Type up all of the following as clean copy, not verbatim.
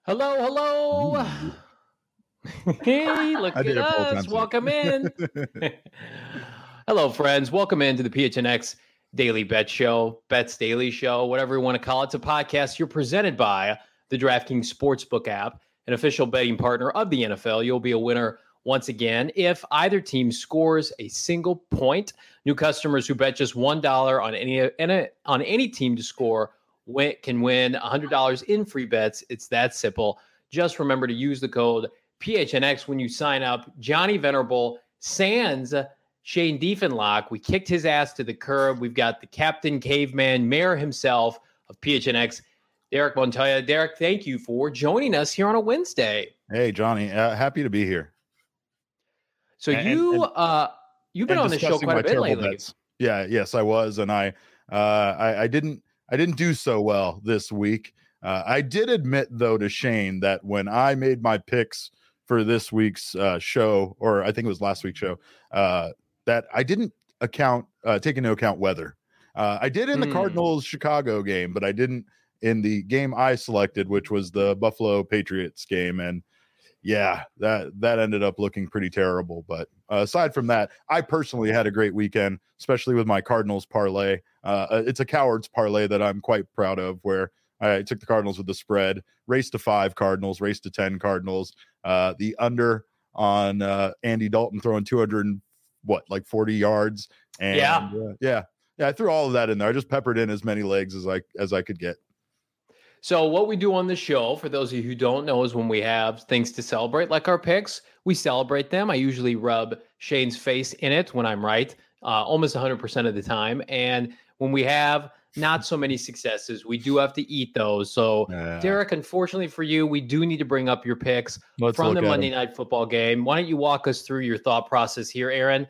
Hello, hello. Ooh. Hey, look I did at it both us. times. Welcome in. Hello, friends. Welcome into the PHNX Daily Bet Show, Bets Daily Show, whatever you want to call it. It's a podcast you're presented by the DraftKings Sportsbook app, an official betting partner of the NFL. You'll be a winner once again if either team scores a single point. New customers who bet just $1 on any team to score can win $100 in free bets. It's that simple. Just remember to use the code PHNX when you sign up. Johnny Venerable sans Shane Diefenlock. We kicked his ass to the curb. We've got the Captain Caveman, mayor himself of PHNX, Derek Montoya. Derek, thank you for joining us here on a Wednesday. Hey, Johnny, happy to be here. So you've been on the show quite a bit lately. Bets. Yes, I was, and I didn't do so well this week. I did admit, though, to Shane that when I made my picks for this week's show, or I think it was last week's show, that I didn't take into account weather. I did in the Cardinals Chicago game, but I didn't in the game I selected, which was the Buffalo Patriots game. And yeah, that ended up looking pretty terrible. But aside from that, I personally had a great weekend, especially with my Cardinals parlay. It's a coward's parlay that I'm quite proud of, where I took the Cardinals with the spread, raced to 5 Cardinals, raced to 10 Cardinals. The under on Andy Dalton throwing 40 yards. And I threw all of that in there. I just peppered in as many legs as I could get. So what we do on the show, for those of you who don't know, is when we have things to celebrate, like our picks, we celebrate them. I usually rub Shane's face in it when I'm right, almost 100% of the time. And when we have not so many successes, we do have to eat those. So, Derek, unfortunately for you, we do need to bring up your picks from the Monday Night Football game. Why don't you walk us through your thought process here, Aaron?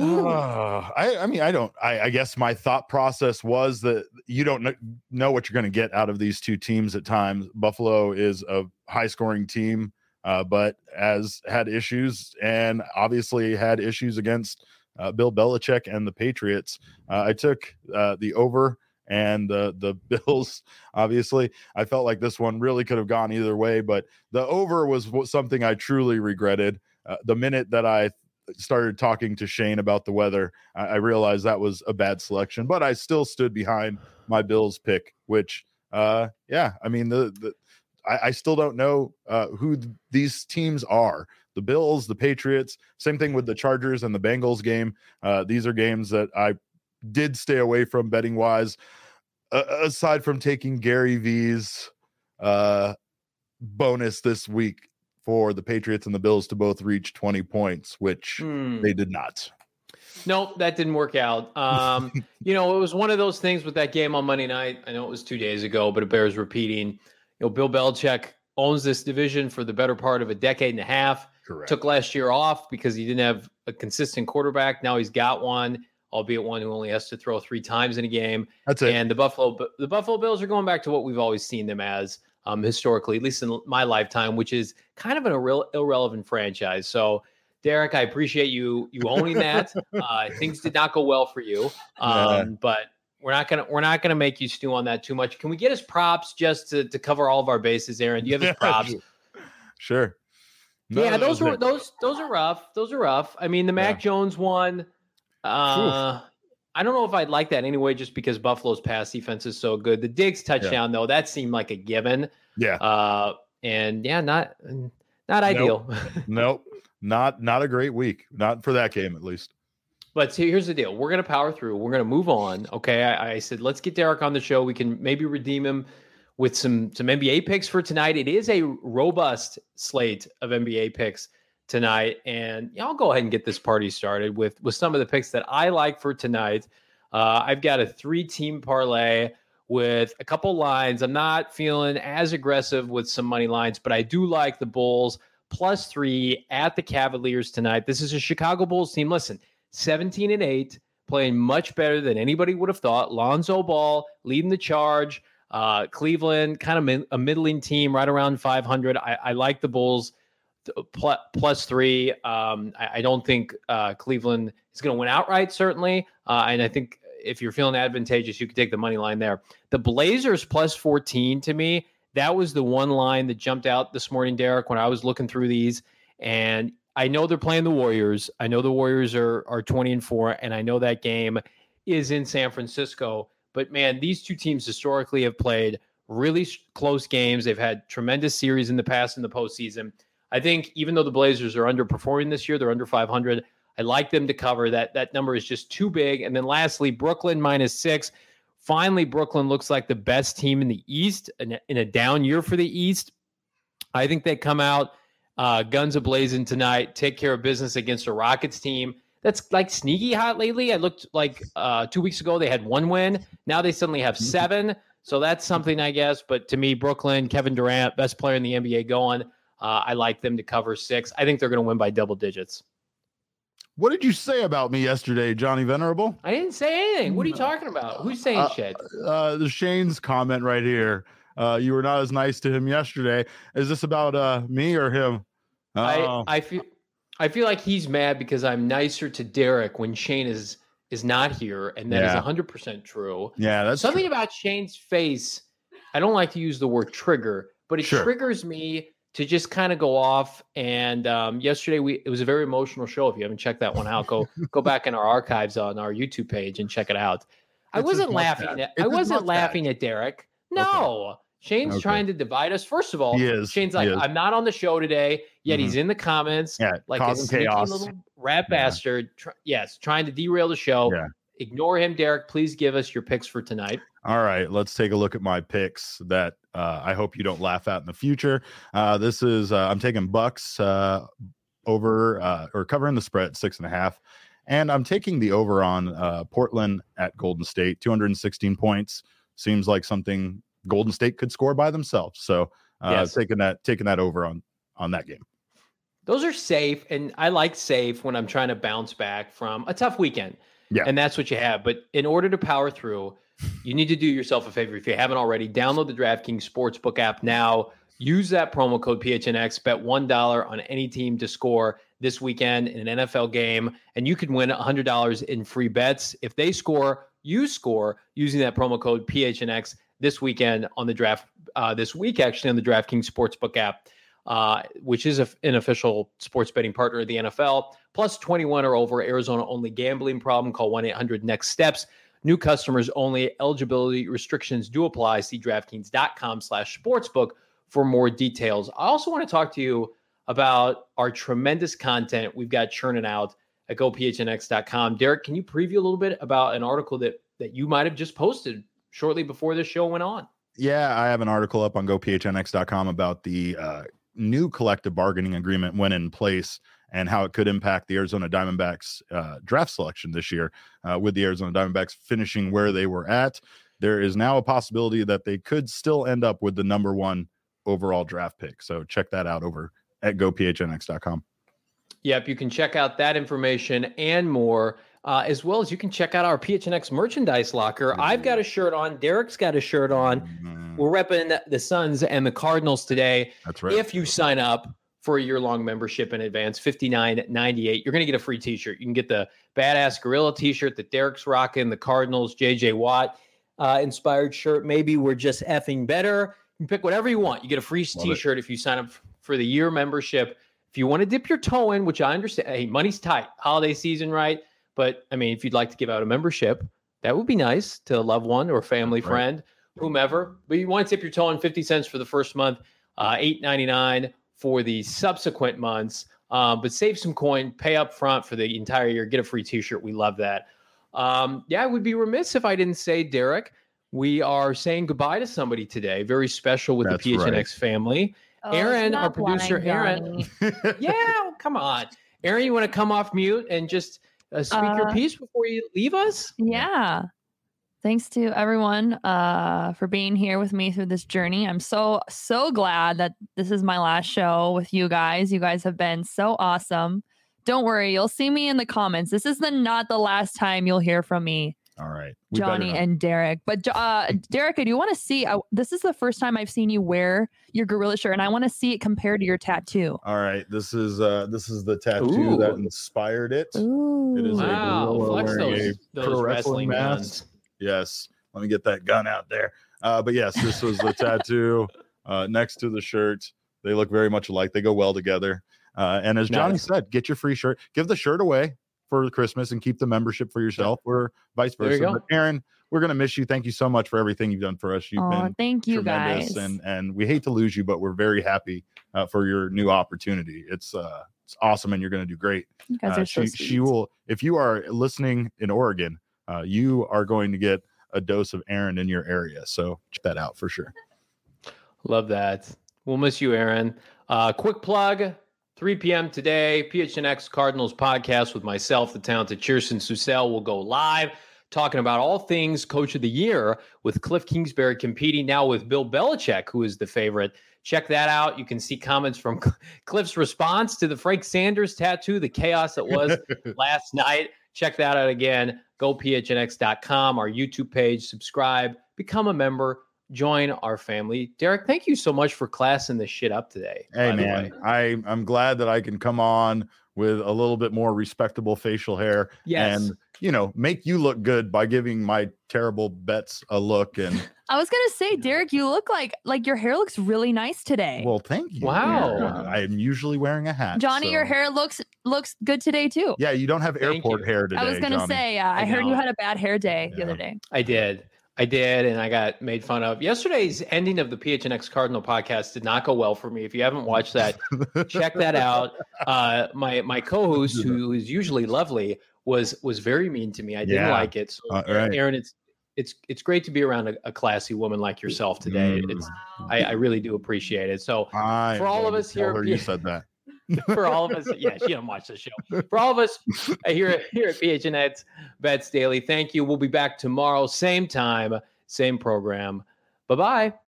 I guess my thought process was that you don't know what you're going to get out of these two teams at times. Buffalo is a high scoring team, but has had issues, and obviously had issues against Bill Belichick and the Patriots. I took the over and the Bills. Obviously, I felt like this one really could have gone either way, but the over was something I truly regretted. The minute that I started talking to Shane about the weather, I realized that was a bad selection, but I still stood behind my Bills pick, which I still don't know who these teams are. The Bills, the Patriots, same thing with the Chargers and the Bengals game. These are games that I did stay away from betting wise, aside from taking Gary V's bonus this week for the Patriots and the Bills to both reach 20 points, which they did not. Nope, that didn't work out. It was one of those things with that game on Monday night. I know it was 2 days ago, but it bears repeating. Bill Belichick owns this division for the better part of a decade and a half. Correct. Took last year off because he didn't have a consistent quarterback. Now he's got one, albeit one who only has to throw 3 times in a game. That's it. And the Buffalo Bills are going back to what we've always seen them as. Historically, at least in my lifetime, which is kind of an irrelevant franchise. So, Derek, I appreciate you owning that. Things did not go well for you, but we're not gonna make you stew on that too much. Can we get his props just to cover all of our bases, Aaron? Do you have his props? Sure. No, those are rough. Those are rough. I mean, the Mac Jones one. I don't know if I'd like that anyway, just because Buffalo's pass defense is so good. The Diggs touchdown, though, that seemed like a given. Yeah. Not ideal. Nope. Not a great week. Not for that game, at least. But see, here's the deal. We're going to power through. We're going to move on. Okay. I said, let's get Derek on the show. We can maybe redeem him with some NBA picks for tonight. It is a robust slate of NBA picks tonight, and I'll go ahead and get this party started with some of the picks that I like for tonight. I've got a 3-team parlay with a couple lines. I'm not feeling as aggressive with some money lines, but I do like the Bulls +3 at the Cavaliers tonight. This is a Chicago Bulls team. Listen, 17-8, playing much better than anybody would have thought. Lonzo Ball leading the charge. Cleveland, kind of a middling team, right around 500. I like the Bulls +3. I don't think Cleveland is going to win outright, certainly. And I think if you're feeling advantageous, you can take the money line there. The Blazers +14 to me, That was the one line that jumped out this morning, Derek, when I was looking through these. And I know they're playing the Warriors. I know the Warriors are 20-4, and I know that game is in San Francisco. But, man, these two teams historically have played really close games. They've had tremendous series in the past in the postseason. I think even though the Blazers are underperforming this year, they're under 500. I like them to cover. That number is just too big. And then lastly, Brooklyn -6. Finally, Brooklyn looks like the best team in the East in a down year for the East. I think they come out guns a-blazing tonight, take care of business against a Rockets team that's like sneaky hot lately. I looked like 2 weeks ago they had 1 win. Now they suddenly have 7. So that's something, I guess. But to me, Brooklyn, Kevin Durant, best player in the NBA going. I like them to cover 6. I think they're going to win by double digits. What did you say about me yesterday, Johnny Venerable? I didn't say anything. What are you talking about? Who's saying shit? The Shane's comment right here. You were not as nice to him yesterday. Is this about me or him? I feel like he's mad because I'm nicer to Derek when Shane is not here, and that is 100% true. Yeah, that's something true. about Shane's face. I don't like to use the word trigger, but it triggers me to just kind of go off. And yesterday it was a very emotional show. If you haven't checked that one out, go back in our archives on our YouTube page and check it out. I wasn't laughing at Derek. No. Okay. Shane's trying to divide us. First of all, Shane's like, I'm not on the show today, yet he's in the comments like a sneaky little rat bastard. Trying to derail the show. Yeah. Ignore him, Derek. Please give us your picks for tonight. All right, let's take a look at my picks that I hope you don't laugh at in the future. This is I'm taking Bucks over or covering the spread 6.5, and I'm taking the over on Portland at Golden State. 216 points seems like something Golden State could score by themselves. So taking that over on that game. Those are safe, and I like safe when I'm trying to bounce back from a tough weekend. Yeah, and that's what you have. But in order to power through, you need to do yourself a favor. If you haven't already, download the DraftKings Sportsbook app now. Use that promo code PHNX. Bet $1 on any team to score this weekend in an NFL game, and you can win $100 in free bets. If they score, you score using that promo code PHNX this weekend on the draft. This week, actually, on the DraftKings Sportsbook app, which is an official sports betting partner of the NFL. Plus 21 or over, Arizona-only gambling problem. Call 1-800-NEXT-STEPS. New customers only. Eligibility restrictions do apply. See DraftKings.com/sportsbook for more details. I also want to talk to you about our tremendous content we've got churning out at GoPHNX.com. Derek, can you preview a little bit about an article that you might have just posted shortly before this show went on? Yeah, I have an article up on GoPHNX.com about the new collective bargaining agreement went in place and how it could impact the Arizona Diamondbacks draft selection this year. With the Arizona Diamondbacks finishing where they were at, there is now a possibility that they could still end up with the number 1 overall draft pick. So check that out over at GoPHNX.com. Yep, you can check out that information and more, as well as you can check out our PHNX merchandise locker. I've got a shirt on. Derek's got a shirt on. We're repping the Suns and the Cardinals today. That's right. If you sign up for a year-long membership in advance, $59.98, you're going to get a free t-shirt. You can get the Badass Gorilla t-shirt that Derek's rocking, the Cardinals J.J. Watt inspired shirt. Maybe we're just effing better. You can pick whatever you want. You get a free t-shirt if you sign up for the year membership. If you want to dip your toe in, which I understand, hey, money's tight, holiday season, right? But, I mean, if you'd like to give out a membership, that would be nice to a loved one or a family friend, whomever. But you want to dip your toe in 50 cents for the first month, $8.99 for the subsequent months. But save some coin, pay up front for the entire year, get a free t-shirt. We love that. I would be remiss if I didn't say, Derek, we are saying goodbye to somebody today. Very special with the PHNX family. Oh, Aaron, our producer, Aaron. Yeah, come on. Aaron, you want to come off mute and just speak your piece before you leave us? Yeah. Thanks to everyone for being here with me through this journey. I'm so glad that this is my last show with you guys. You guys have been so awesome. Don't worry, you'll see me in the comments. This is not the last time you'll hear from me. All right. Johnny and Derek. But Derek, I do want to see, this is the first time I've seen you wear your gorilla shirt, and I want to see it compared to your tattoo. All right. This is the tattoo that inspired it. Ooh. It is a gorilla flex wearing those pro wrestling mask. guns. Yes. Let me get that gun out there. But yes, this was the tattoo next to the shirts. They look very much alike. They go well together. And as Johnny said, get your free shirt. Give the shirt away for Christmas and keep the membership for yourself, or vice versa. But Aaron, we're going to miss you. Thank you so much for everything you've done for us. You've been thank you tremendous, guys. and we hate to lose you, but we're very happy for your new opportunity. It's awesome, and you're going to do great. You guys are so sweet. She will, if you are listening in Oregon, you are going to get a dose of Aaron in your area. So check that out for sure. Love that. We'll miss you, Aaron. Quick plug, 3 p.m. today, PHNX Cardinals podcast with myself, the talented Kirsten Susel, will go live talking about all things Coach of the Year with Cliff Kingsbury competing now with Bill Belichick, who is the favorite. Check that out. You can see comments from Cliff's response to the Frank Sanders tattoo, the chaos that was last night. Check that out again. Go phnx.com, our YouTube page, subscribe, become a member. Join our family. Derek, thank you so much for classing this shit up today. Hey, man, I'm glad that I can come on with a little bit more respectable facial hair and, make you look good by giving my terrible bets a look. And I was going to say, Derek, you look like your hair looks really nice today. Well, thank you. Wow. I'm usually wearing a hat. Johnny, your hair looks good today too. Yeah, you don't have airport hair today. I was going to say, I heard you had a bad hair day the other day. I did, and I got made fun of. Yesterday's ending of the PHNX Cardinal podcast did not go well for me. If you haven't watched that, check that out. My co-host, who is usually lovely, was very mean to me. I didn't like it. So, right. Aaron, it's great to be around a classy woman like yourself today. I really do appreciate it. So for all of us here, you said that. For all of us, yeah, she didn't watch the show. For all of us here at PHNX Bets Daily, thank you. We'll be back tomorrow, same time, same program. Bye-bye.